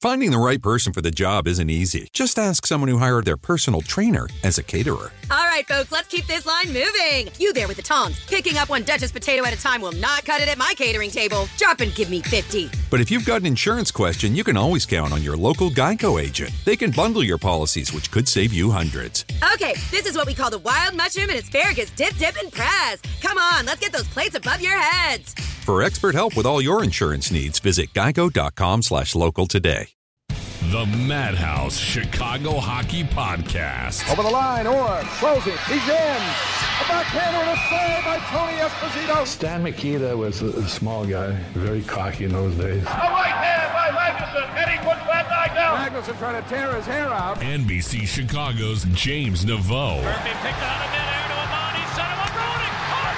Finding the right person for the job isn't easy. Just ask someone who hired their personal trainer as a caterer. All right, folks, let's keep this line moving. You there with the tongs. Picking up one Duchess potato at a time will not cut it at my catering table. Drop and give me 50. But if you've got an insurance question, you can always count on your local Geico agent. They can bundle your policies, which could save you hundreds. Okay, this is what we call the wild mushroom and asparagus dip, and press. Come on, let's get those plates above your heads. For expert help with all your insurance needs, visit geico.com/local today. The Madhouse Chicago Hockey Podcast. Over the line, Orr throws it. He's in. A backhander and a save by Tony Esposito. Stan Mikita was a small guy, very cocky in those days. A right hand by Magnuson, and he puts that guy down. Magnuson trying to tear his hair out. NBC Chicago's James Naveau. Murphy picked out of midair to Amani, set him up, Roenick.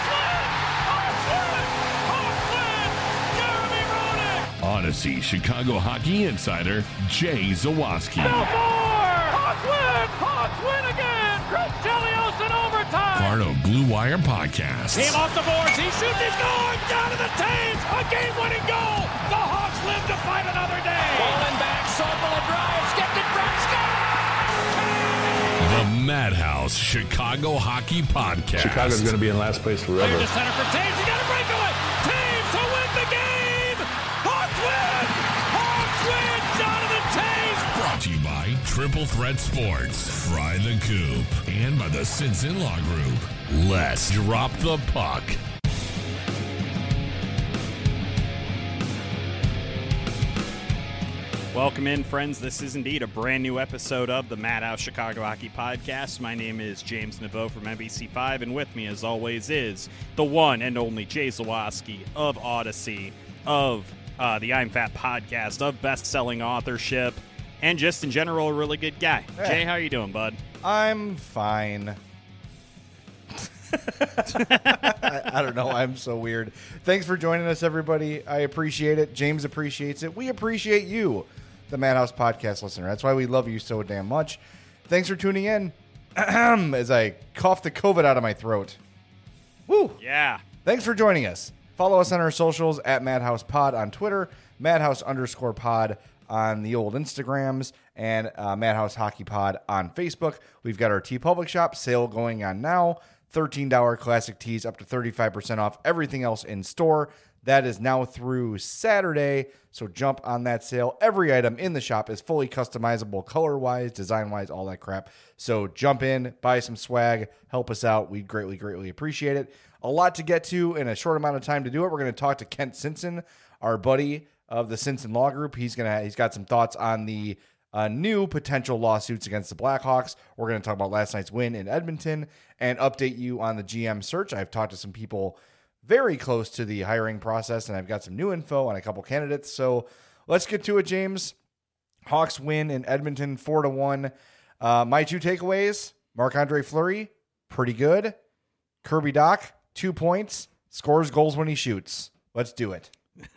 Hartland! Jeremy Roenick! Odyssey Chicago Hockey Insider Jay Zawaski. Hawks win again! Chris Chelios in overtime! Part of Blue Wire Podcast. Team off the boards, he shoots, he's going! Down to the Taves! A game-winning goal! The Hawks live to fight another day! Falling back, Sorpel drive, skipped it, Brett The Madhouse Chicago Hockey Podcast. Chicago's going to be in last place forever. Clear to center for Taves, you got a breakaway! Taves to win the game! Hawks win! Hawks win! Jonathan Taves! Brought to you by Triple Threat Sports, Fry the Coop, and by the Simpson Law Group. Let's drop the puck. Welcome in, friends. This is indeed a brand new episode of the Madhouse Chicago Hockey Podcast. My name is James Naveau from NBC5, and with me, as always, is the one and only Jay Zawaski of Odyssey, of the I'm Fat podcast, of best-selling authorship, and just in general a really good guy. Hey. Jay, how are you doing, bud? I'm fine. I don't know. I'm so weird. Thanks for joining us, everybody. I appreciate it. James appreciates it. We appreciate you, the Madhouse Podcast listener. That's why we love you so damn much. Thanks for tuning in as I cough the COVID out of my throat. Woo! Yeah. Thanks for joining us. Follow us on our socials at MadhousePod on Twitter, Madhouse_pod on the old Instagrams, and Madhouse Hockey Pod on Facebook. We've got our TeePublic shop sale going on now. $13 classic tees up to 35% off everything else in store. That is now through Saturday, so jump on that sale. Every item in the shop is fully customizable color-wise, design-wise, all that crap. So jump in, buy some swag, help us out. We'd greatly, greatly appreciate it. A lot to get to in a short amount of time to do it. We're going to talk to Kent Simpson, our buddy of the Simpson Law Group. He's got some thoughts on the new potential lawsuits against the Blackhawks. We're going to talk about last night's win in Edmonton and update you on the GM search. I've talked to some people very close to the hiring process, and I've got some new info on a couple candidates. So let's get to it, James. Hawks win in Edmonton 4-1. My two takeaways: Marc-Andre Fleury, pretty good. Kirby Dach, 2 points. Scores goals when he shoots. Let's do it.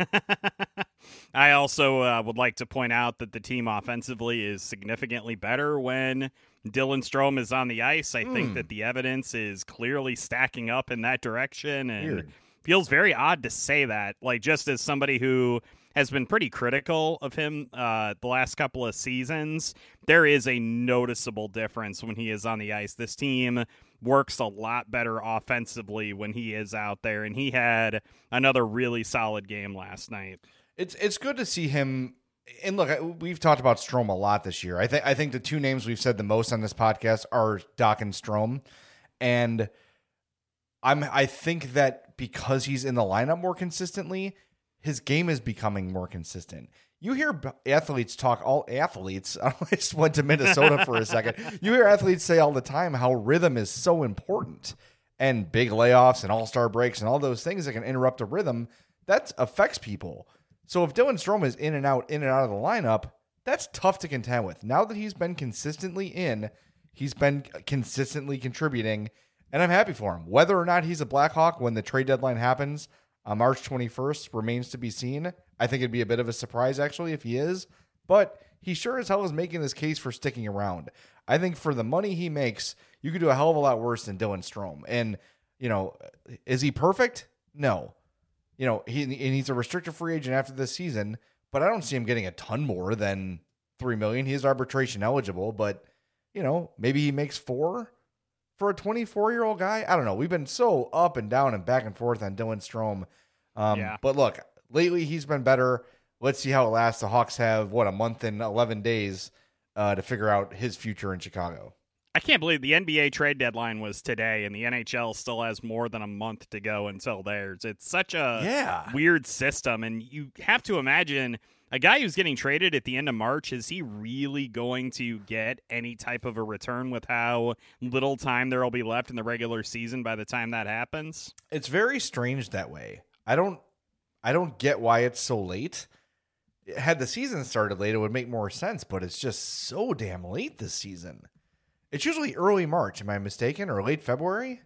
I also would like to point out that the team offensively is significantly better when Dylan Strome is on the ice. I think that the evidence is clearly stacking up in that direction, and Weird. Feels very odd to say that. Like, just as somebody who has been pretty critical of him the last couple of seasons, there is a noticeable difference when he is on the ice. This team works a lot better offensively when he is out there, and he had another really solid game last night. It's good to see him. And look, we've talked about Strome a lot this year. I think the two names we've said the most on this podcast are Dach and Strome, and I think that because he's in the lineup more consistently, his game is becoming more consistent. You hear athletes talk, all athletes, I just went to Minnesota for a second. You hear athletes say all the time how rhythm is so important, and big layoffs and all-star breaks and all those things that can interrupt a rhythm, that affects people. So if Dylan Strome is in and out of the lineup, that's tough to contend with. Now that he's been consistently in, he's been consistently contributing, and I'm happy for him. Whether or not he's a Blackhawk when the trade deadline happens on March 21st remains to be seen. I think it'd be a bit of a surprise, actually, if he is. But he sure as hell is making this case for sticking around. I think for the money he makes, you could do a hell of a lot worse than Dylan Strome. And, is he perfect? No. He's a restricted free agent after this season, but I don't see him getting a ton more than $3 million. He is arbitration eligible, but maybe he makes $4 million for a 24-year-old guy. I don't know. We've been so up and down and back and forth on Dylan Strome. But look, lately he's been better. Let's see how it lasts. The Hawks have a month and 11 days to figure out his future in Chicago. I can't believe the NBA trade deadline was today, and the NHL still has more than a month to go until theirs. It's such a weird system, and you have to imagine a guy who's getting traded at the end of March, is he really going to get any type of a return with how little time there will be left in the regular season by the time that happens? It's very strange that way. I don't get why it's so late. Had the season started late, it would make more sense, but it's just so damn late this season. It's usually early March, am I mistaken, or late February?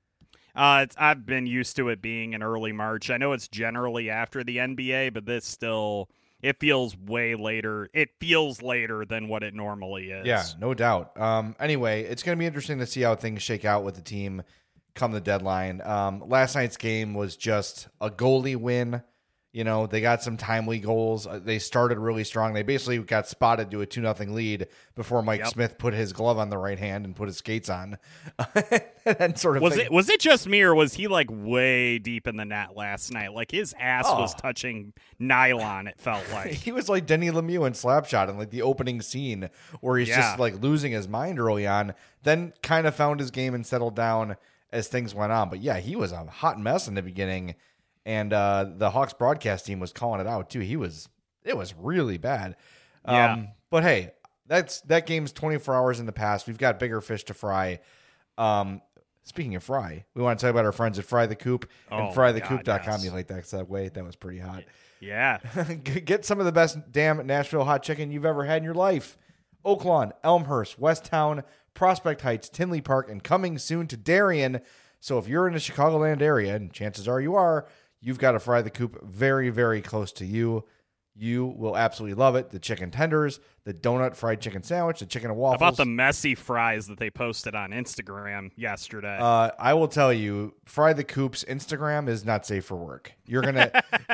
I've been used to it being in early March. I know it's generally after the NBA, but this still, it feels way later. It feels later than what it normally is. Yeah, no doubt. Anyway, it's going to be interesting to see how things shake out with the team come the deadline. Last night's game was just a goalie win. They got some timely goals. They started really strong. They basically got spotted to a 2-0 lead before Mike Smith put his glove on the right hand and put his skates on. And was it just me, or was he like way deep in the net last night? Like his ass was touching nylon, it felt like. He was like Denny Lemieux in Slapshot in like the opening scene where he's just like losing his mind early on, then kind of found his game and settled down as things went on. But yeah, he was a hot mess in the beginning. And the Hawks broadcast team was calling it out too. It was really bad. But hey, that game's 24 hours in the past. We've got bigger fish to fry. Speaking of fry, we want to talk about our friends at Fry the Coop and frythecoop.com. Yes. You like that segue? That was pretty hot. Yeah. Get some of the best damn Nashville hot chicken you've ever had in your life. Oak Lawn, Elmhurst, Westtown, Prospect Heights, Tinley Park, and coming soon to Darien. So if you're in the Chicagoland area, and chances are you are, you've got a Fry the Coop very, very close to you. You will absolutely love it. The chicken tenders, the donut fried chicken sandwich, the chicken and waffles. How about the messy fries that they posted on Instagram yesterday? I will tell you, Fry the Coop's Instagram is not safe for work. You're gonna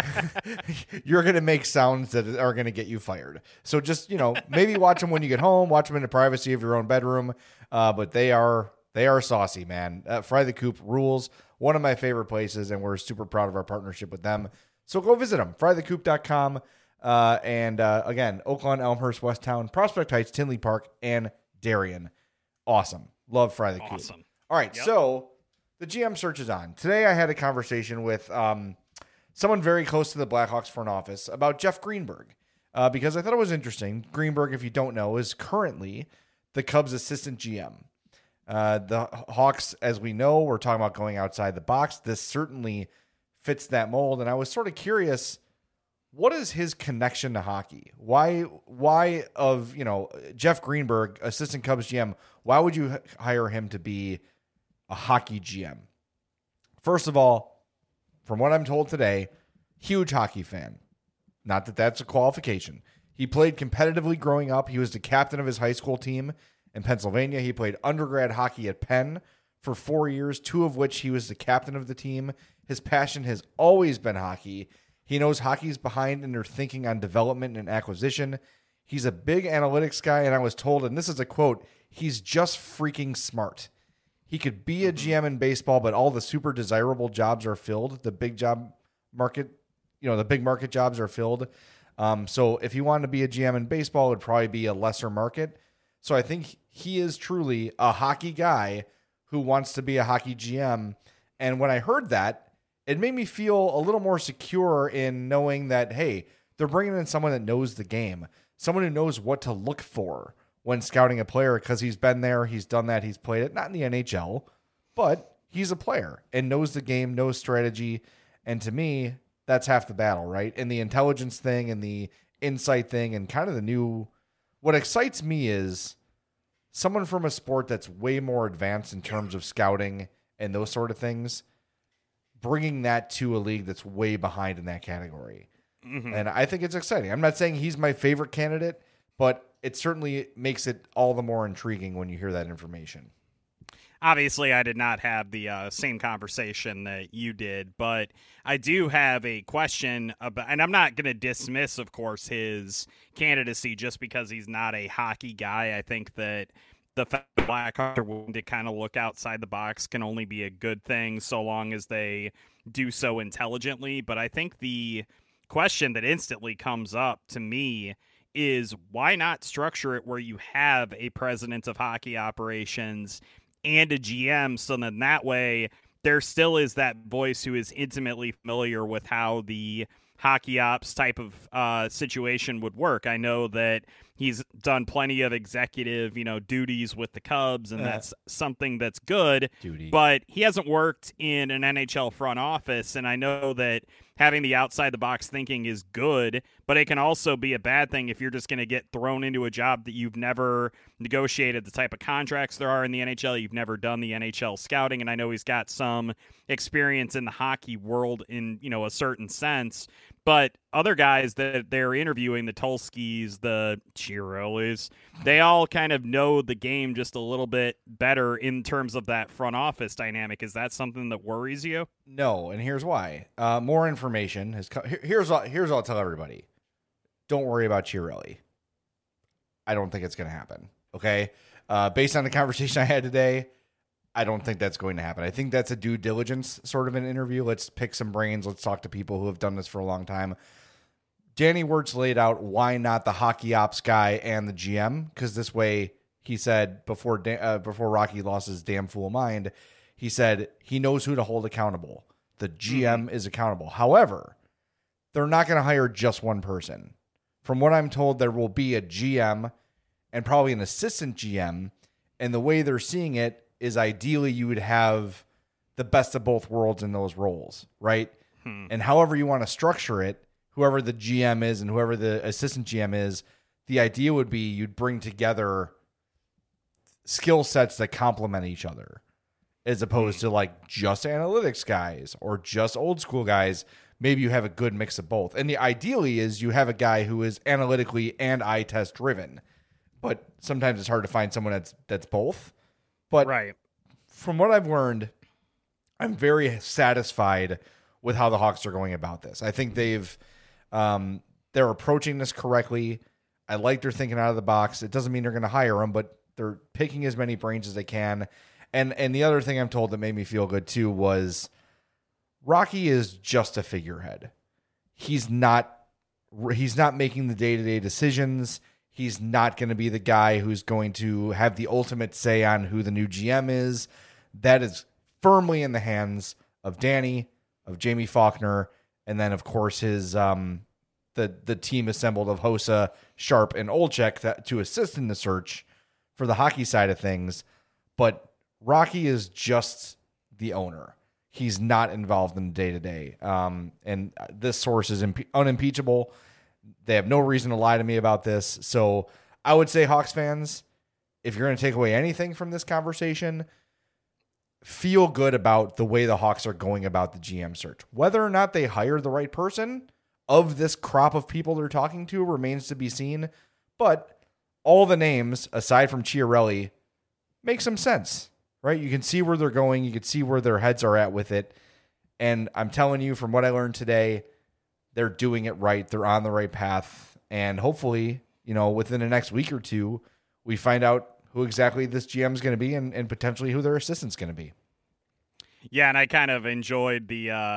make sounds that are gonna get you fired. So just maybe watch them when you get home. Watch them in the privacy of your own bedroom. But they are saucy, man. Fry the Coop rules. One of my favorite places, and we're super proud of our partnership with them. So go visit them, frythecoop.com. And again, Oakland, Elmhurst, Westtown, Prospect Heights, Tinley Park, and Darien. Awesome. Love Fry the Coop. Awesome. All right, so the GM search is on. Today I had a conversation with someone very close to the Blackhawks front office about Jeff Greenberg because I thought it was interesting. Greenberg, if you don't know, is currently the Cubs assistant GM. The Hawks, as we know, we're talking about going outside the box. This certainly fits that mold. And I was sort of curious, what is his connection to hockey? Why of, Jeff Greenberg, assistant Cubs GM, why would you hire him to be a hockey GM? First of all, from what I'm told today, huge hockey fan. Not that that's a qualification. He played competitively growing up. He was the captain of his high school team in Pennsylvania. He played undergrad hockey at Penn for 4 years, 2 of which he was the captain of the team. His passion has always been hockey. He knows hockey's behind in their thinking on development and acquisition. He's a big analytics guy, and I was told, and this is a quote, he's just freaking smart. He could be a GM in baseball, but all the super desirable jobs are filled. The big job market, the big market jobs are filled. So if he wanted to be a GM in baseball, it would probably be a lesser market. So I think he is truly a hockey guy who wants to be a hockey GM. And when I heard that, it made me feel a little more secure in knowing that, hey, they're bringing in someone that knows the game, someone who knows what to look for when scouting a player because he's been there, he's done that, he's played it, not in the NHL, but he's a player and knows the game, knows strategy. And to me, that's half the battle, right? And the intelligence thing and the insight thing and kind of the new... What excites me is someone from a sport that's way more advanced in terms of scouting and those sort of things, bringing that to a league that's way behind in that category. Mm-hmm. And I think it's exciting. I'm not saying he's my favorite candidate, but it certainly makes it all the more intriguing when you hear that information. Obviously, I did not have the same conversation that you did, but I do have a question about, and I'm not going to dismiss, of course, his candidacy just because he's not a hockey guy. I think that the fact that Blackhawks are willing to kind of look outside the box can only be a good thing so long as they do so intelligently. But I think the question that instantly comes up to me is why not structure it where you have a president of hockey operations and a GM, so then that way there still is that voice who is intimately familiar with how the hockey ops type of situation would work. I know that he's done plenty of executive, duties with the Cubs, and that's something that's good. But he hasn't worked in an NHL front office, and I know that having the outside-the-box thinking is good, but it can also be a bad thing if you're just going to get thrown into a job that you've never negotiated the type of contracts there are in the NHL. You've never done the NHL scouting, and I know he's got some experience in the hockey world in, a certain sense. But other guys that they're interviewing, the Tulskis, the Chiarellis, they all kind of know the game just a little bit better in terms of that front office dynamic. Is that something that worries you? No, and here's why. More information has come. Here's what I'll tell everybody. Don't worry about Chiarelli. I don't think it's going to happen. Okay? Based on the conversation I had today, I don't think that's going to happen. I think that's a due diligence sort of an interview. Let's pick some brains. Let's talk to people who have done this for a long time. Danny Wirtz laid out why not the hockey ops guy and the GM, because this way, he said before Rocky lost his damn fool mind, he said he knows who to hold accountable. The GM is accountable. However, they're not going to hire just one person. From what I'm told, there will be a GM and probably an assistant GM, and the way they're seeing it is ideally you would have the best of both worlds in those roles, right? And however you want to structure it, whoever the GM is and whoever the assistant GM is, the idea would be you'd bring together skill sets that complement each other as opposed to like just analytics guys or just old school guys. Maybe you have a good mix of both. And the ideally is you have a guy who is analytically and eye test driven, but sometimes it's hard to find someone that's both. But from what I've learned, I'm very satisfied with how the Hawks are going about this. I think they're approaching this correctly. I like their thinking out of the box. It doesn't mean they're going to hire them, but they're picking as many brains as they can. And the other thing I'm told that made me feel good too was Rocky is just a figurehead. He's not making the day-to-day decisions. He's not going to be the guy who's going to have the ultimate say on who the new GM is. That is firmly in the hands of Danny, of Jamie Faulkner, and then, of course, his the team assembled of Hossa, Sharp, and Olczyk to assist in the search for the hockey side of things. But Rocky is just the owner. He's not involved in the day-to-day. And this source is unimpeachable. They have no reason to lie to me about this. So I would say, Hawks fans, if you're going to take away anything from this conversation, feel good about the way the Hawks are going about the GM search. Whether or not they hire the right person of this crop of people they're talking to remains to be seen. But all the names, aside from Chiarelli, make some sense, right? You can see where they're going. You can see where their heads are at with it. And I'm telling you, from what I learned today, they're doing it right. They're on the right path. And hopefully, within the next week or two, we find out who exactly this GM is going to be and potentially who their assistant's going to be. Yeah, and I kind of enjoyed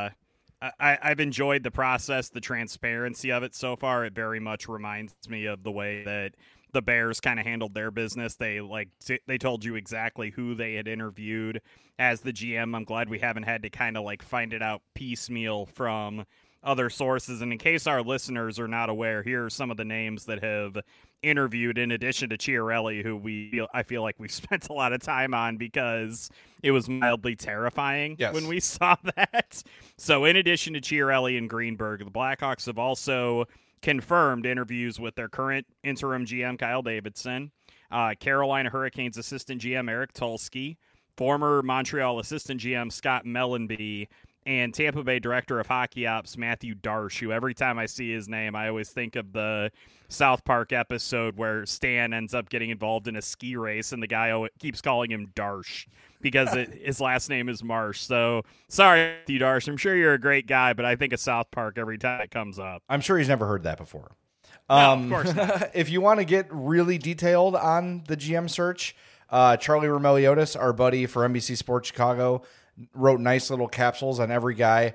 I've enjoyed the process, the transparency of it so far. It very much reminds me of the way that the Bears kind of handled their business. They told you exactly who they had interviewed as the GM. I'm glad we haven't had to kind of find it out piecemeal from other sources. And in case our listeners are not aware, here are some of the names that have interviewed in addition to Chiarelli, who I feel like we've spent a lot of time on because it was mildly terrifying when we saw that. So in addition to Chiarelli and Greenberg, the Blackhawks have also confirmed interviews with their current interim GM, Kyle Davidson, Carolina Hurricanes assistant GM, Eric Tulsky, former Montreal assistant GM, Scott Mellenby, and Tampa Bay Director of Hockey Ops Matthew Darsh, who every time I see his name, I always think of the South Park episode where Stan ends up getting involved in a ski race, and the guy keeps calling him Darsh because his last name is Marsh. So, sorry, Matthew Darsh. I'm sure you're a great guy, but I think of South Park every time it comes up. I'm sure he's never heard that before. No, of course not. If you want to get really detailed on the GM search, Charlie Romeliotis, our buddy for NBC Sports Chicago, wrote nice little capsules on every guy.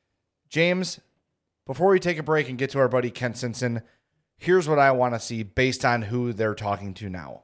James, before we take a break and get to our buddy Kent Sinson, here's what I want to see based on who they're talking to now.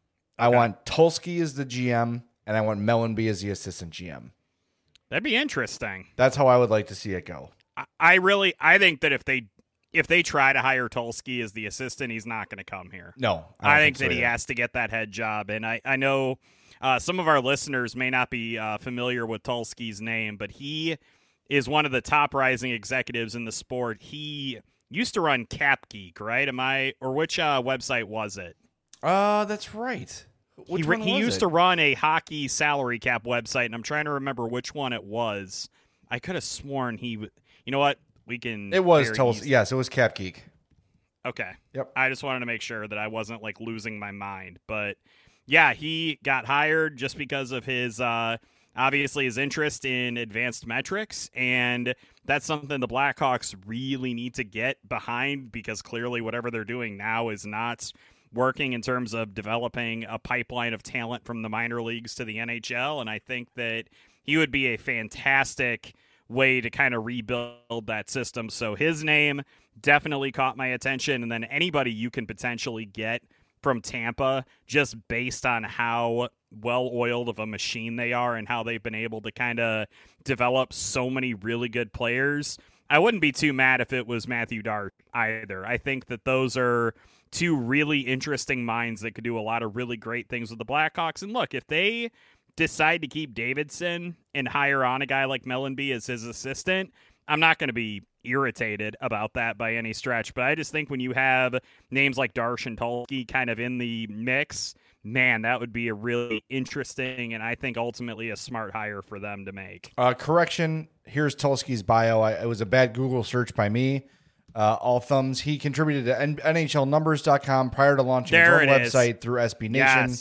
I want Tulsky as the GM, and I want Mellanby as the assistant GM. That'd be interesting. That's how I would like to see it go. I think that if they try to hire Tulsky as the assistant, he's not going to come here. No, I think that he has to get that head job. And I know some of our listeners may not be familiar with Tulsky's name, but he is one of the top rising executives in the sport. He used to run Cap Geek, right? Which website was it? That's right. He used to run a hockey salary cap website, and I'm trying to remember which one it was. I could have sworn you know what? It was Tulsky. Yes, it was Cap Geek. Okay. Yep. I just wanted to make sure that I wasn't like losing my mind. But yeah, he got hired just because of his obviously his interest in advanced metrics, and that's something the Blackhawks really need to get behind, because clearly whatever they're doing now is not working in terms of developing a pipeline of talent from the minor leagues to the NHL. And I think that he would be a fantastic way to kind of rebuild that system. So his name definitely caught my attention. And then anybody you can potentially get from Tampa, just based on how well-oiled of a machine they are and how they've been able to kind of develop so many really good players. I wouldn't be too mad if it was Matthew Darsh either. I think that those are two really interesting minds that could do a lot of really great things with the Blackhawks. And look, if they decide to keep Davidson and hire on a guy like Mellanby as his assistant, I'm not going to be irritated about that by any stretch. But I just think when you have names like Darsh and Tulsky kind of in the mix, man, that would be a really interesting and I think ultimately a smart hire for them to make. Correction, here's Tulsky's bio. It was a bad Google search by me. All thumbs. He contributed to NHLnumbers.com prior to launching his own website through SB Nation.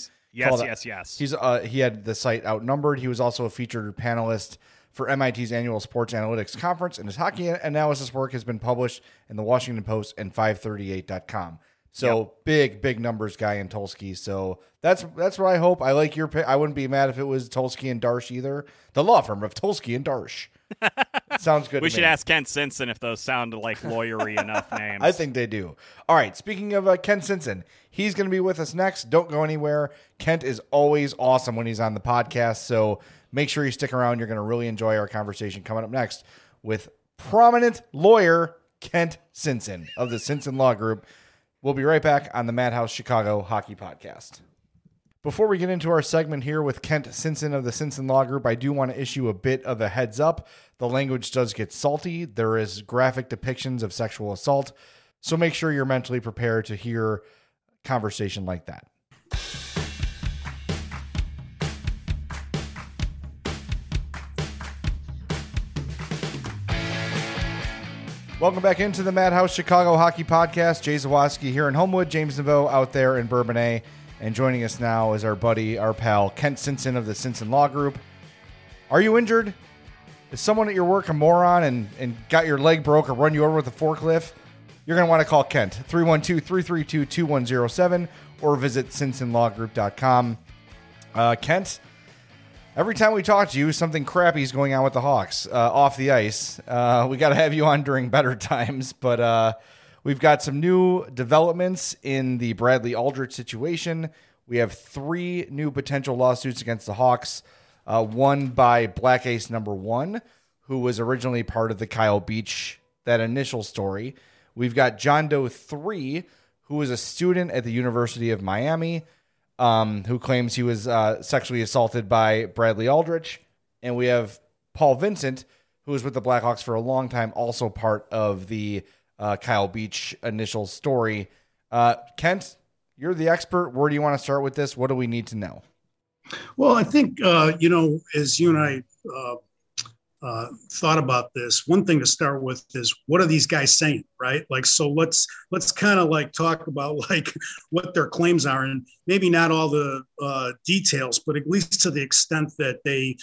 Yes. He had the site outnumbered. He was also a featured panelist for MIT's annual Sports Analytics Conference, and his hockey analysis work has been published in the Washington Post and 538.com. So big numbers guy in Tulsky. So that's what I hope. I like your pick. I wouldn't be mad if it was Tulsky and Darsh either. The law firm of Tulsky and Darsh. Sounds good. We should ask Kent Sinson if those sound like lawyery enough names. I think they do. All right. Speaking of Kent Sinson, he's going to be with us next. Don't go anywhere. Kent is always awesome when he's on the podcast. So make sure you stick around. You're going to really enjoy our conversation coming up next with prominent lawyer Kent Sinson of the Sinson Law Group. We'll be right back on the Madhouse Chicago Hockey Podcast. Before we get into our segment here with Kent Sinson of the Sinson Law Group, I do want to issue a bit of a heads up. The language does get salty. There is graphic depictions of sexual assault, so make sure you're mentally prepared to hear conversation like that. Welcome back into the Madhouse Chicago Hockey Podcast. Jay Zawaski here in Homewood, James Naveau out there in Bourbonnais. And joining us now is our buddy, our pal, Kent Sinson of the Sinson Law Group. Are you injured? Is someone at your work a moron and got your leg broke or run you over with a forklift? You're going to want to call Kent, 312-332-2107, or visit SinsonLawGroup.com. Kent, every time we talk to you, something crappy is going on with the Hawks off the ice. We got to have you on during better times, but we've got some new developments in the Bradley Aldrich situation. We have 3 new potential lawsuits against the Hawks, one by Black Ace number 1, who was originally part of the Kyle Beach, that initial story. We've got John Doe 3, who was a student at the University of Miami, who claims he was sexually assaulted by Bradley Aldrich. And we have Paul Vincent, who was with the Blackhawks for a long time, also part of the Kyle Beach initial story. Kent, you're the expert. Where do you want to start with this? What do we need to know? Well, I think, as you and I thought about this, one thing to start with is, what are these guys saying, right? Like, so let's kind of like talk about like what their claims are, and maybe not all the details, but at least to the extent that they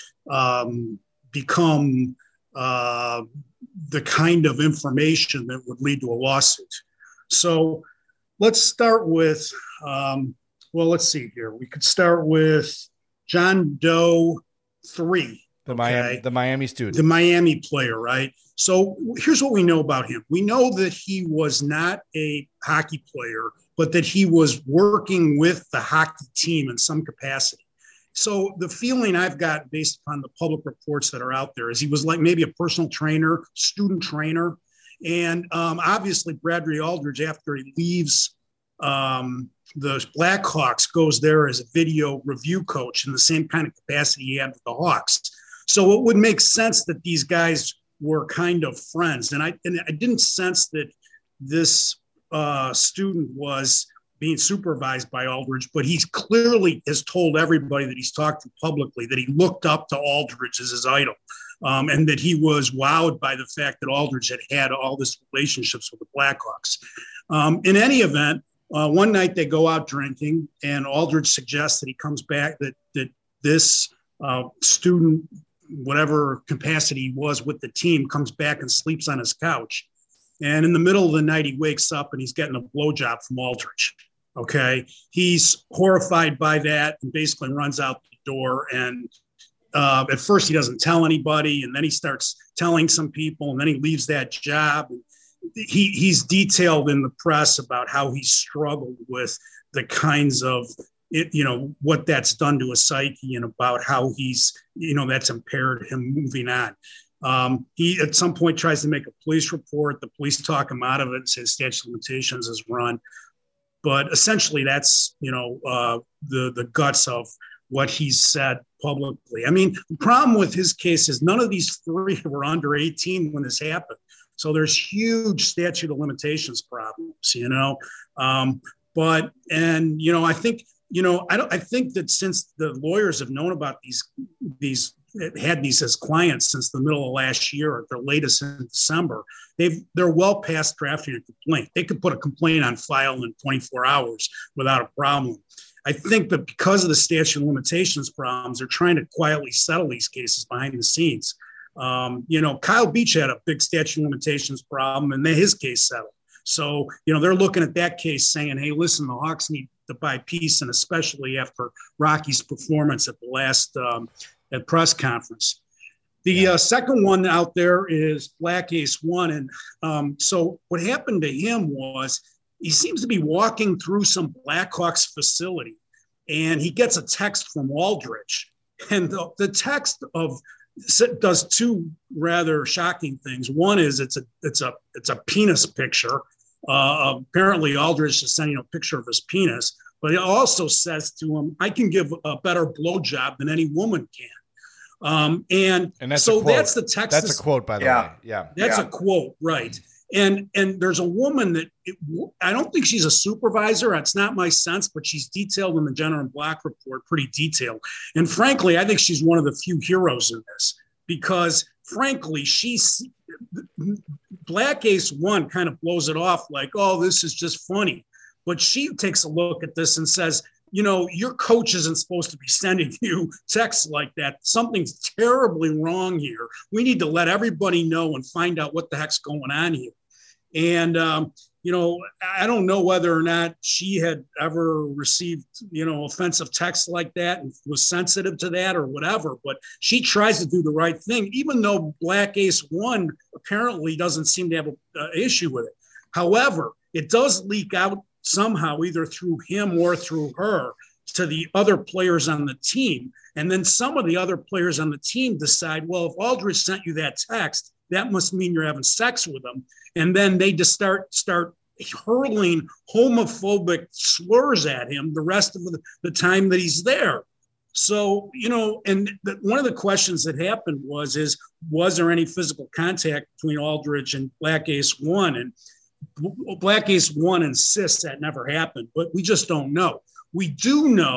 become the kind of information that would lead to a lawsuit. So let's start with, let's see here. We could start with John Doe 3. The Miami student. The Miami player, right? So here's what we know about him. We know that he was not a hockey player, but that he was working with the hockey team in some capacity. So the feeling I've got based upon the public reports that are out there is he was like maybe a personal trainer, student trainer. And obviously Bradley Aldridge, after he leaves the Blackhawks, goes there as a video review coach in the same kind of capacity he had with the Hawks. So it would make sense that these guys were kind of friends. And I didn't sense that this student was being supervised by Aldridge, but he clearly has told everybody that he's talked to publicly that he looked up to Aldridge as his idol, and that he was wowed by the fact that Aldridge had all this relationships with the Blackhawks. In any event, one night they go out drinking, and Aldridge suggests that he comes back, that this student, whatever capacity he was with the team, comes back and sleeps on his couch. And in the middle of the night, he wakes up and he's getting a blowjob from Aldridge. Okay. He's horrified by that and basically runs out the door. And at first he doesn't tell anybody. And then he starts telling some people, and then he leaves that job. He's detailed in the press about how he struggled with the kinds of, what that's done to his psyche, and about how he's, that's impaired him moving on. He at some point tries to make a police report. The police talk him out of it and say statute of limitations is run. But essentially that's, the guts of what he's said publicly. I mean, the problem with his case is none of these three were under 18 when this happened. So there's huge statute of limitations problems, I think that since the lawyers have known about had these as clients since the middle of last year, or their latest in December, they're well past drafting a complaint. They could put a complaint on file in 24 hours without a problem. I think that because of the statute of limitations problems, they're trying to quietly settle these cases behind the scenes. Kyle Beach had a big statute of limitations problem, and his case settled. So, they're looking at that case saying, hey, listen, the Hawks need to buy peace, and especially after Rocky's performance at the last at press conference. The second one out there is Black Ace One. And so what happened to him was he seems to be walking through some Blackhawks facility, and he gets a text from Aldridge. And the text does two rather shocking things. One is it's a penis picture. Apparently Aldridge is sending a picture of his penis, but it also says to him, I can give a better blowjob than any woman can. And that's so that's the text. That's a quote, by the way. Yeah. That's a quote. Right. And there's a woman that I don't think she's a supervisor. It's not my sense, but she's detailed in the Jenner and Black report, pretty detailed. And frankly, I think she's one of the few heroes in this, because frankly, Black Ace One kind of blows it off like, oh, this is just funny. But she takes a look at this and says, your coach isn't supposed to be sending you texts like that. Something's terribly wrong here. We need to let everybody know and find out what the heck's going on here. And, I don't know whether or not she had ever received, offensive texts like that and was sensitive to that or whatever, but she tries to do the right thing, even though Black Ace One apparently doesn't seem to have an issue with it. However, it does leak out somehow, either through him or through her, to the other players on the team. And then some of the other players on the team decide, well, if Aldridge sent you that text, that must mean you're having sex with him. And then they just start hurling homophobic slurs at him the rest of the time that he's there. So, one of the questions that happened was there any physical contact between Aldridge and Black Ace One? And Black Ace One insists that never happened, but we just don't know. We do know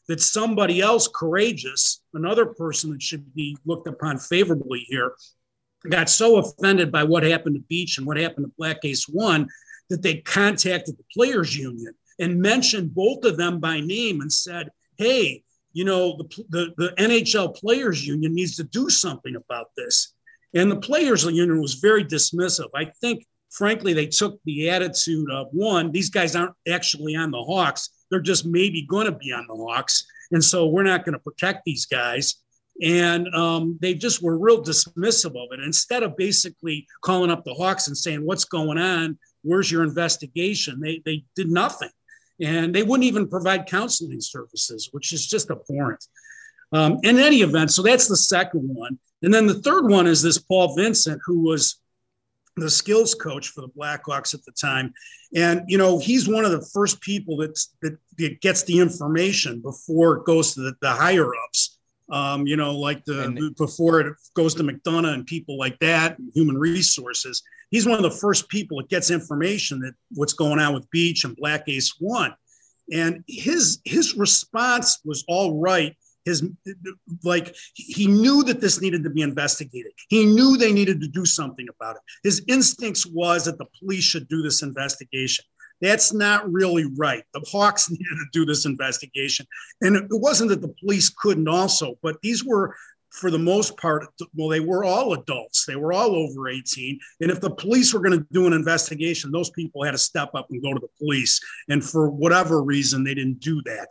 that somebody else courageous, another person that should be looked upon favorably here, got so offended by what happened to Beach and what happened to Black Ace One that they contacted the players union and mentioned both of them by name and said, hey, you know, the NHL players union needs to do something about this. And the players union was very dismissive. I think, frankly, they took the attitude of, one, these guys aren't actually on the Hawks. They're just maybe going to be on the Hawks. And so we're not going to protect these guys. And they just were real dismissive of it. Instead of basically calling up the Hawks and saying, what's going on? Where's your investigation? They did nothing. And they wouldn't even provide counseling services, which is just abhorrent. In any event, so that's the second one. And then the third one is this Paul Vincent, who was the skills coach for the Blackhawks at the time. And, you know, he's one of the first people that gets the information before it goes to the higher ups. You know, like before it goes to McDonough and people like that, and human resources. He's one of the first people that gets information that what's going on with Beach and Black Ace One. And his response was all right. He knew that this needed to be investigated. He knew they needed to do something about it. His instincts was that the police should do this investigation. That's not really right. The Hawks needed to do this investigation. And it wasn't that the police couldn't also, but these were, for the most part, well, they were all adults. They were all over 18. And if the police were going to do an investigation, those people had to step up and go to the police. And for whatever reason, they didn't do that.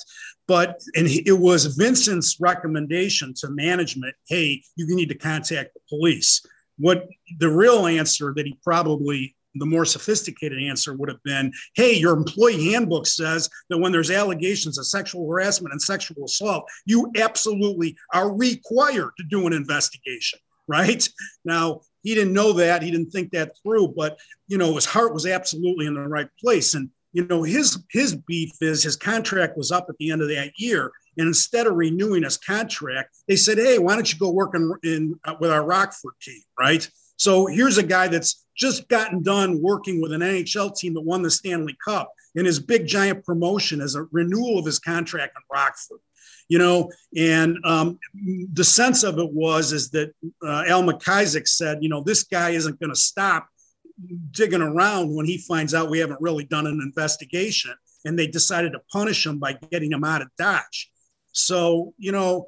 And it was Vincent's recommendation to management, hey, you need to contact the police. What the real answer that he probably, the more sophisticated answer would have been, hey, your employee handbook says that when there's allegations of sexual harassment and sexual assault, you absolutely are required to do an investigation, right? Now, he didn't know that. He didn't think that through, but, you know, his heart was absolutely in the right place. And, you know, his beef is his contract was up at the end of that year. And instead of renewing his contract, they said, hey, why don't you go work with our Rockford team, right? So here's a guy that's just gotten done working with an NHL team that won the Stanley Cup, and his big giant promotion is a renewal of his contract in Rockford, you know. And the sense of it is that Al McIsaac said, you know, this guy isn't going to stop digging around when he finds out we haven't really done an investigation, and they decided to punish him by getting him out of Dodge. So, you know,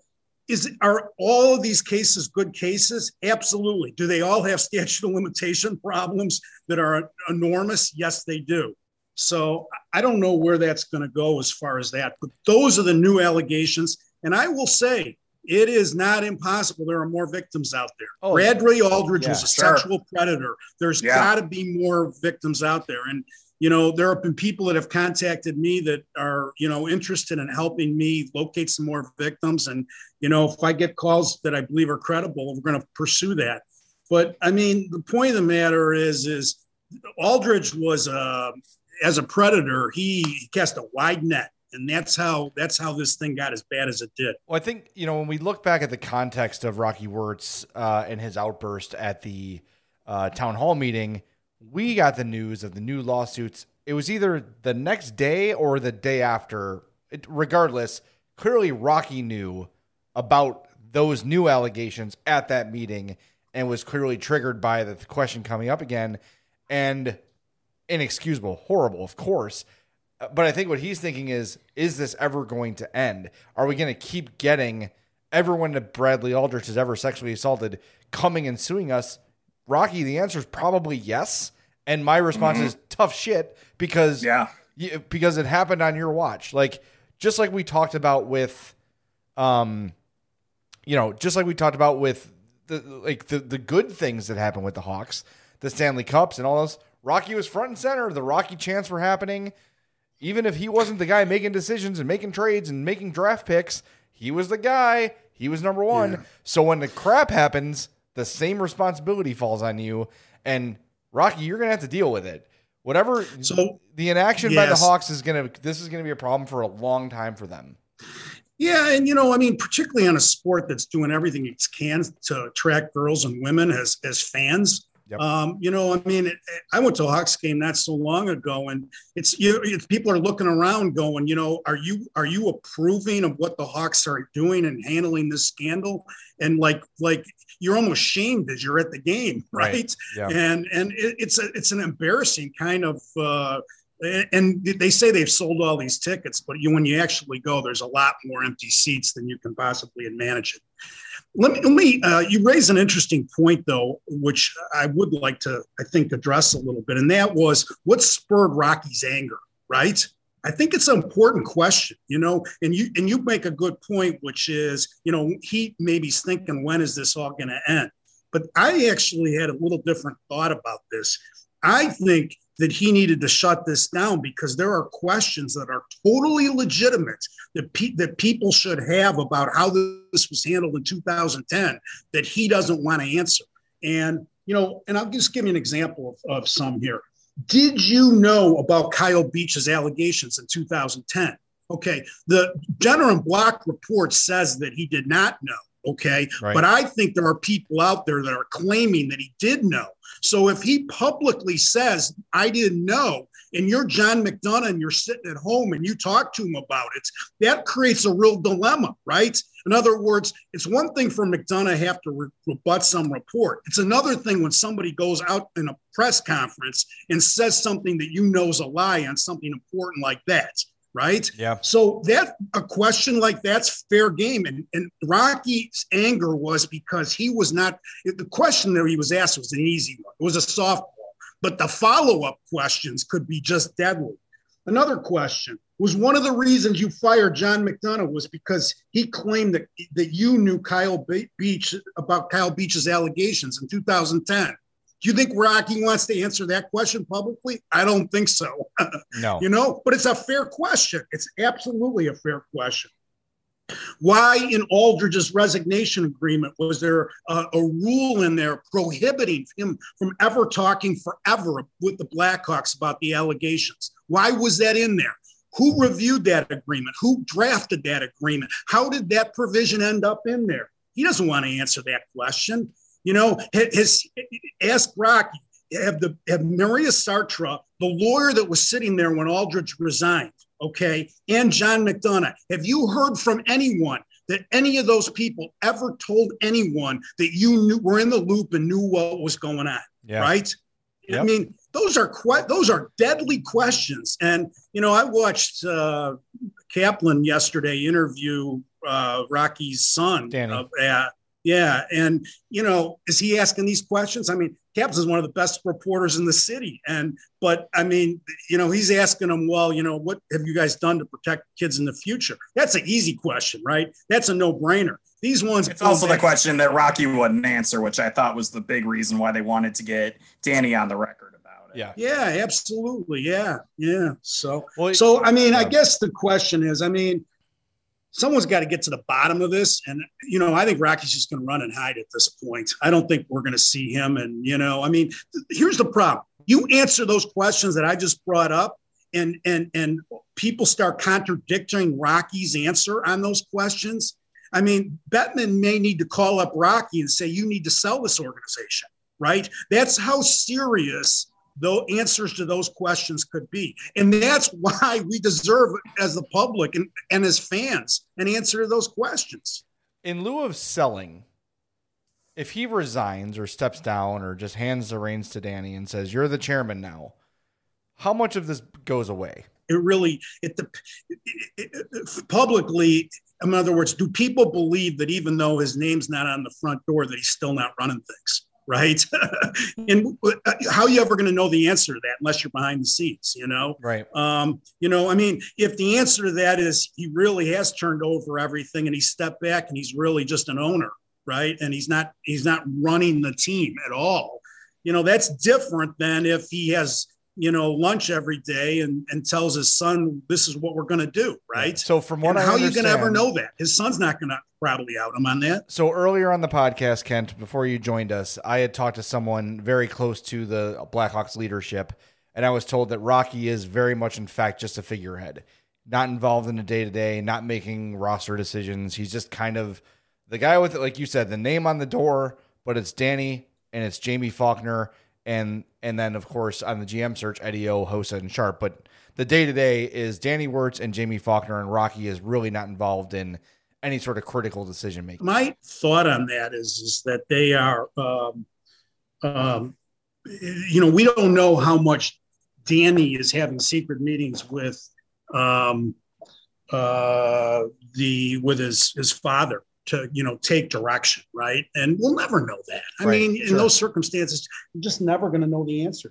are all of these cases good cases? Absolutely. Do they all have statute of limitation problems that are enormous? Yes, they do. So I don't know where that's going to go as far as that, but those are the new allegations. And I will say, it is not impossible. There are more victims out there. Oh, Bradley Aldridge was a sexual predator. There's got to be more victims out there. And, you know, there have been people that have contacted me that are, you know, interested in helping me locate some more victims. And, you know, if I get calls that I believe are credible, we're going to pursue that. But I mean, the point of the matter is Aldridge was, as a predator, he cast a wide net. And that's how this thing got as bad as it did. Well, I think, you know, when we look back at the context of Rocky Wirtz and his outburst at the town hall meeting, we got the news of the new lawsuits. It was either the next day or the day after. Regardless, clearly Rocky knew about those new allegations at that meeting and was clearly triggered by the question coming up again. And inexcusable, horrible, of course. But I think what he's thinking is this ever going to end? Are we going to keep getting everyone that Bradley Aldridge has ever sexually assaulted coming and suing us? Rocky, the answer is probably yes. And my response is tough shit because it happened on your watch. Like, just like we talked about with, the good things that happened with the Hawks, the Stanley Cups and all those. Rocky was front and center. The Rocky chants were happening. Even if he wasn't the guy making decisions and making trades and making draft picks, he was the guy. He was number one. Yeah. So when the crap happens, the same responsibility falls on you. And Rocky, you're going to have to deal with it. Whatever. So the inaction by the Hawks is going to be a problem for a long time for them. Yeah. And, you know, I mean, particularly on a sport that's doing everything it can to attract girls and women as fans, Yep. I mean, I went to a Hawks game not so long ago, and it's people are looking around going, are you approving of what the Hawks are doing and handling this scandal? And like you're almost shamed as you're at the game, right? Yeah. And it's an embarrassing kind of. And they say they've sold all these tickets, but when you actually go, there's a lot more empty seats than you can possibly manage it. Let me you raise an interesting point, though, which I would like to, I think, address a little bit. And that was what spurred Rocky's anger, right? I think it's an important question, and you make a good point, which is, he maybe's thinking, when is this all going to end? But I actually had a little different thought about this. I think that he needed to shut this down because there are questions that are totally legitimate that people should have about how this was handled in 2010 that he doesn't want to answer. And, and I'll just give you an example of some here. Did you know about Kyle Beach's allegations in 2010? Okay. The Jenner and Block report says that he did not know. Okay. Right. But I think there are people out there that are claiming that he did know. So if he publicly says, I didn't know, and you're John McDonough and you're sitting at home and you talk to him about it, that creates a real dilemma, right? In other words, it's one thing for McDonough to have to rebut some report. It's another thing when somebody goes out in a press conference and says something that is a lie on something important like that. Right. Yeah. So a question like that's fair game. And Rocky's anger was because he was not, the question that he was asked was an easy one. It was a softball, but the follow-up questions could be just deadly. Another question was, one of the reasons you fired John McDonough was because he claimed that you knew Kyle Beach's allegations in 2010. Do you think Rocky wants to answer that question publicly? I don't think so. No. But it's a fair question. It's absolutely a fair question. Why in Aldridge's resignation agreement was there a rule in there prohibiting him from ever talking forever with the Blackhawks about the allegations? Why was that in there? Who reviewed that agreement? Who drafted that agreement? How did that provision end up in there? He doesn't want to answer that question. Ask Rocky, have Maria Sartre, the lawyer that was sitting there when Aldridge resigned, okay, and John McDonough, have you heard from anyone that any of those people ever told anyone that you were in the loop and knew what was going on, right? Yep. I mean, those are deadly questions. And, I watched Kaplan yesterday interview Rocky's son, Danny. Yeah. And, is he asking these questions? I mean, Caps is one of the best reporters in the city. But I mean, he's asking them, well, what have you guys done to protect kids in the future? That's an easy question, right? That's a no-brainer. These ones. It's also the question that Rocky wouldn't answer, which I thought was the big reason why they wanted to get Danny on the record about it. Yeah, absolutely. Yeah. So, I mean, I guess the question is, someone's got to get to the bottom of this. And, I think Rocky's just going to run and hide at this point. I don't think we're going to see him. And, here's the problem. You answer those questions that I just brought up and people start contradicting Rocky's answer on those questions. Bettman may need to call up Rocky and say, you need to sell this organization, right? That's how serious the answers to those questions could be. And that's why we deserve, as the public and as fans, an answer to those questions. In lieu of selling, if he resigns or steps down or just hands the reins to Danny and says, you're the chairman now, how much of this goes away? Publicly, in other words, do people believe that even though his name's not on the front door, that he's still not running things? Right. And how are you ever going to know the answer to that unless you're behind the scenes, Right. If the answer to that is he really has turned over everything and he stepped back and he's really just an owner, right? And he's not running the team at all. That's different than if he has, lunch every day and tells his son, this is what we're going to do. Right. So from what how are you going to ever know that? His son's not going to probably out him on that. So earlier on the podcast, Kent, before you joined us, I had talked to someone very close to the Blackhawks leadership, and I was told that Rocky is very much, in fact, just a figurehead, not involved in the day-to-day, not making roster decisions. He's just kind of the guy with, like you said, the name on the door, but it's Danny and it's Jamie Faulkner, and then, of course, on the GM search, Eddie O, Hossa, and Sharp. But the day-to-day is Danny Wirtz and Jamie Faulkner, and Rocky is really not involved in any sort of critical decision-making. My thought on that is that they are, we don't know how much Danny is having secret meetings with his father to, take direction, right? And we'll never know that. I mean, in those circumstances, you're just never going to know the answer.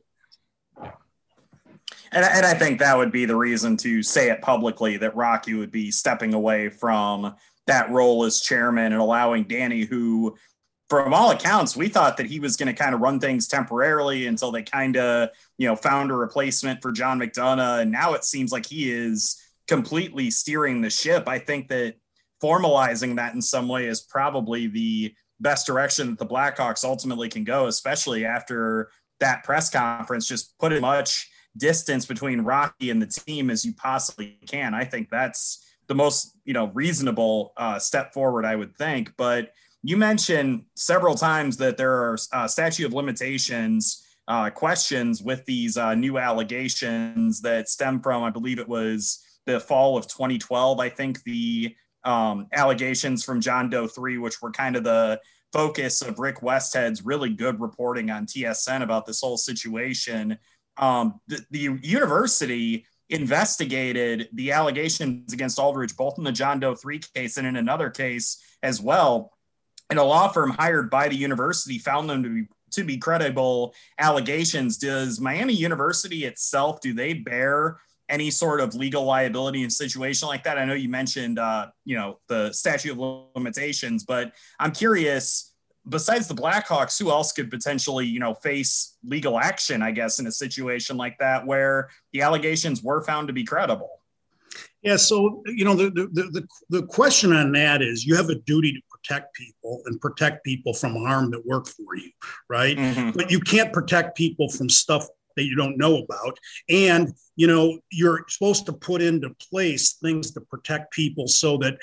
And I think that would be the reason to say it publicly, that Rocky would be stepping away from that role as chairman and allowing Danny, who, from all accounts, we thought that he was going to kind of run things temporarily until they kind of, found a replacement for John McDonough. And now it seems like he is completely steering the ship. I think that formalizing that in some way is probably the best direction that the Blackhawks ultimately can go, especially after that press conference. Just put as much distance between Rocky and the team as you possibly can. I think that's the most, reasonable step forward, I would think. But you mentioned several times that there are statute of limitations questions with these new allegations that stem from, I believe it was the fall of 2012. I think the allegations from John Doe 3, which were kind of the focus of Rick Westhead's really good reporting on TSN about this whole situation. The university investigated the allegations against Aldridge, both in the John Doe 3 case and in another case as well. And a law firm hired by the university found them to be credible allegations. Does Miami University itself, do they bear any sort of legal liability in a situation like that? I know you mentioned, the statute of limitations, but I'm curious, besides the Blackhawks, who else could potentially, face legal action, I guess, in a situation like that where the allegations were found to be credible? Yeah. So, the question on that is, you have a duty to protect people and protect people from harm that work for you, right? Mm-hmm. But you can't protect people from stuff that you don't know about. And, you're supposed to put into place things to protect people so that,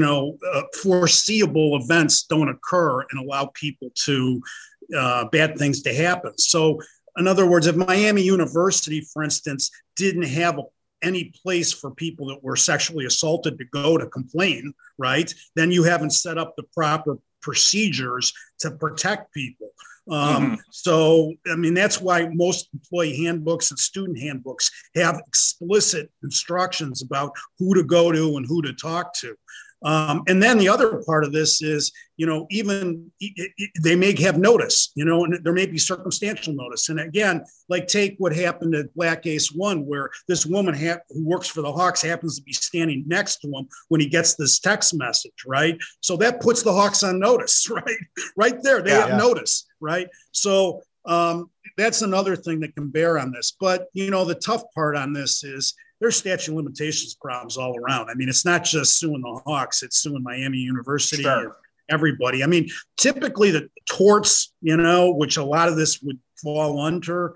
foreseeable events don't occur and allow people to, bad things to happen. So in other words, if Miami University, for instance, didn't have any place for people that were sexually assaulted to go to complain, right, then you haven't set up the proper procedures to protect people. So, I mean, that's why most employee handbooks and student handbooks have explicit instructions about who to go to and who to talk to. And then the other part of this is, they may have notice, and there may be circumstantial notice. And again, like take what happened at Black Ace 1, where this woman who works for the Hawks happens to be standing next to him when he gets this text message, right? So that puts the Hawks on notice, right? Right there, they have notice, right? So that's another thing that can bear on this. But, the tough part on this is, there's statute of limitations problems all around. I mean, it's not just suing the Hawks, it's suing Miami University and everybody. I mean, typically the torts, which a lot of this would fall under,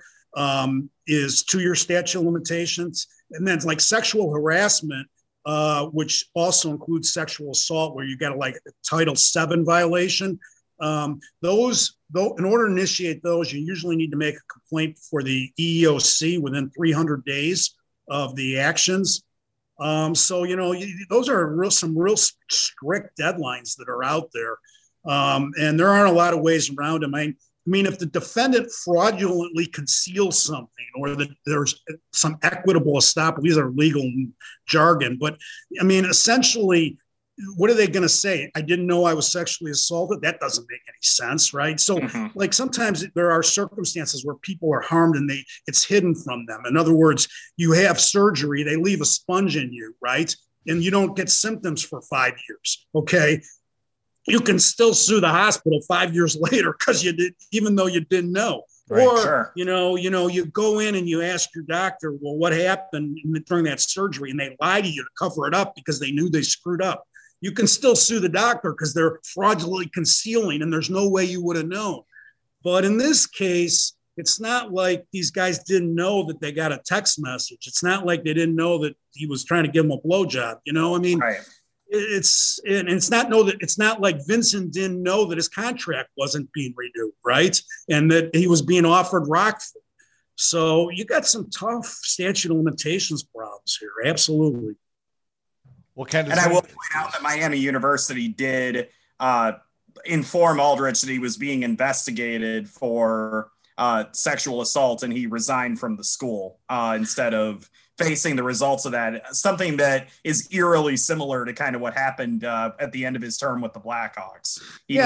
is 2-year statute of limitations. And then it's like sexual harassment, which also includes sexual assault, where you got a Title VII violation. Those, though, in order to initiate those, you usually need to make a complaint for the EEOC within 300 days of the actions. So, those are some real strict deadlines that are out there. And there aren't a lot of ways around them. I mean, if the defendant fraudulently conceals something, or that there's some equitable estoppel, these are legal jargon, but I mean, essentially, what are they going to say? I didn't know I was sexually assaulted. That doesn't make any sense, right? So sometimes there are circumstances where people are harmed and it's hidden from them. In other words, you have surgery, they leave a sponge in you, right? And you don't get symptoms for 5 years. Okay. You can still sue the hospital 5 years later because you did, even though you didn't know. Right, or, you go in and you ask your doctor, well, what happened during that surgery? And they lie to you to cover it up because they knew they screwed up. You can still sue the doctor because they're fraudulently concealing and there's no way you would have known. But in this case, it's not like these guys didn't know that they got a text message. It's not like they didn't know that he was trying to give them a blowjob. it's not like Vincent didn't know that his contract wasn't being renewed, right? And that he was being offered Rockford. So you got some tough statute of limitations problems here. Absolutely. Well, and I will point out that Miami University did inform Aldrich that he was being investigated for sexual assault, and he resigned from the school instead of facing the results of that. Something that is eerily similar to kind of what happened at the end of his term with the Blackhawks.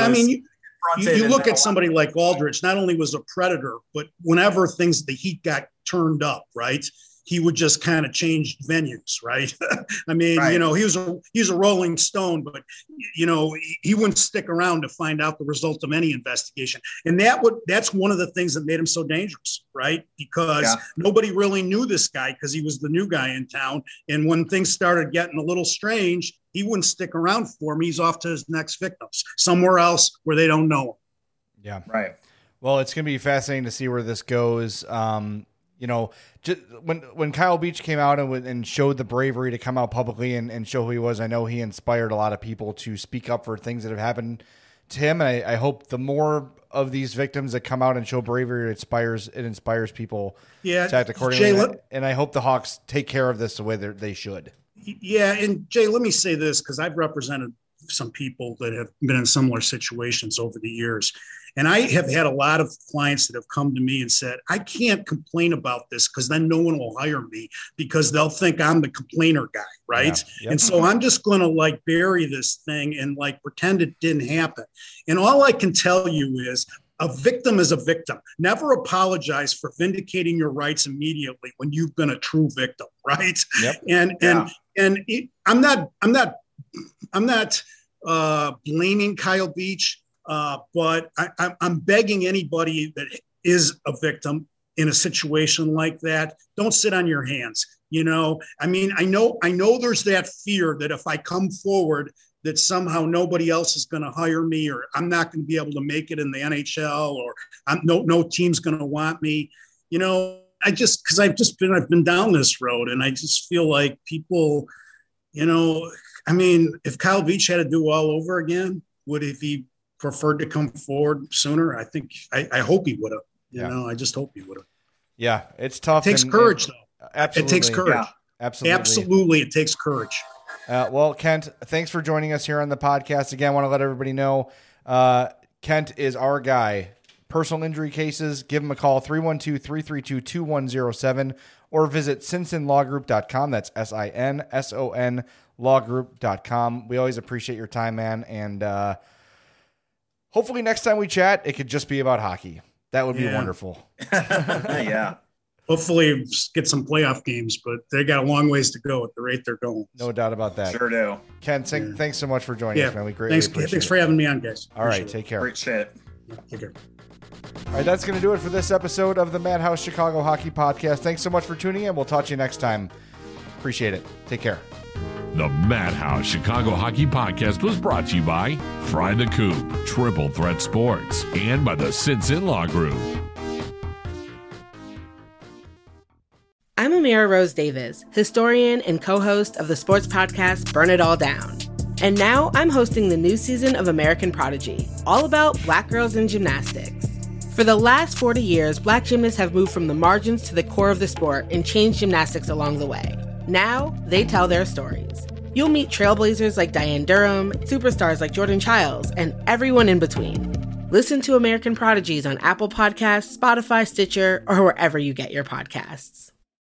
You look at somebody like Aldrich, not only was a predator, but whenever the heat got turned up, right, he would just kind of change venues, right? I mean, right. He was a Rolling Stone, but, he wouldn't stick around to find out the result of any investigation. And that's one of the things that made him so dangerous, right? Because nobody really knew this guy because he was the new guy in town. And when things started getting a little strange, he wouldn't stick around for him. He's off to his next victims, somewhere else where they don't know him. Yeah. Right. Well, it's going to be fascinating to see where this goes. Just when Kyle Beach came out and showed the bravery to come out publicly and show who he was, I know he inspired a lot of people to speak up for things that have happened to him. And I hope the more of these victims that come out and show bravery, it inspires people to act accordingly. Jay, and I hope the Hawks take care of this the way that they should. Yeah. And Jay, let me say this, because I've represented some people that have been in similar situations over the years. And I have had a lot of clients that have come to me and said, I can't complain about this because then no one will hire me because they'll think I'm the complainer guy, right? Yeah. Yep. And so I'm just going to bury this thing and pretend it didn't happen. And all I can tell you is a victim is a victim. Never apologize for vindicating your rights immediately when you've been a true victim, right? Yep. I'm not blaming Kyle Beach. But I'm begging anybody that is a victim in a situation like that, don't sit on your hands. I know there's that fear that if I come forward, that somehow nobody else is going to hire me, or I'm not going to be able to make it in the NHL, or no team's going to want me. Because I've been down this road, and I just feel like people, if Kyle Beach had to do all over again, would he preferred to come forward sooner? I hope he would have. I just hope he would have. Yeah, it's tough. It takes courage, though. Absolutely. It takes courage. Yeah. Absolutely, it takes courage. Well, Kent, thanks for joining us here on the podcast. Again, I want to let everybody know Kent is our guy. Personal injury cases, give him a call, 312-332-2107, or visit sinsonlawgroup.com. That's SINSON lawgroup.com. We always appreciate your time, man. And hopefully next time we chat, it could just be about hockey. That would be wonderful. Yeah. Hopefully get some playoff games, but they got a long ways to go at the rate they're going. No doubt about that. Sure do. Ken, thanks so much for joining us, man. We greatly appreciate it. Thanks for having me on, guys. All right, take care. Great shit. Take care. All right, that's going to do it for this episode of the Madhouse Chicago Hockey Podcast. Thanks so much for tuning in. We'll talk to you next time. Appreciate it. Take care. The Madhouse Chicago Hockey Podcast was brought to you by Fry the Coop, Triple Threat Sports, and by the Sinson Law Group. I'm Amira Rose Davis, historian and co-host of the sports podcast Burn It All Down. And now I'm hosting the new season of American Prodigy, all about Black girls in gymnastics. For the last 40 years, Black gymnasts have moved from the margins to the core of the sport and changed gymnastics along the way. Now, they tell their stories. You'll meet trailblazers like Diane Durham, superstars like Jordan Childs, and everyone in between. Listen to American Prodigies on Apple Podcasts, Spotify, Stitcher, or wherever you get your podcasts.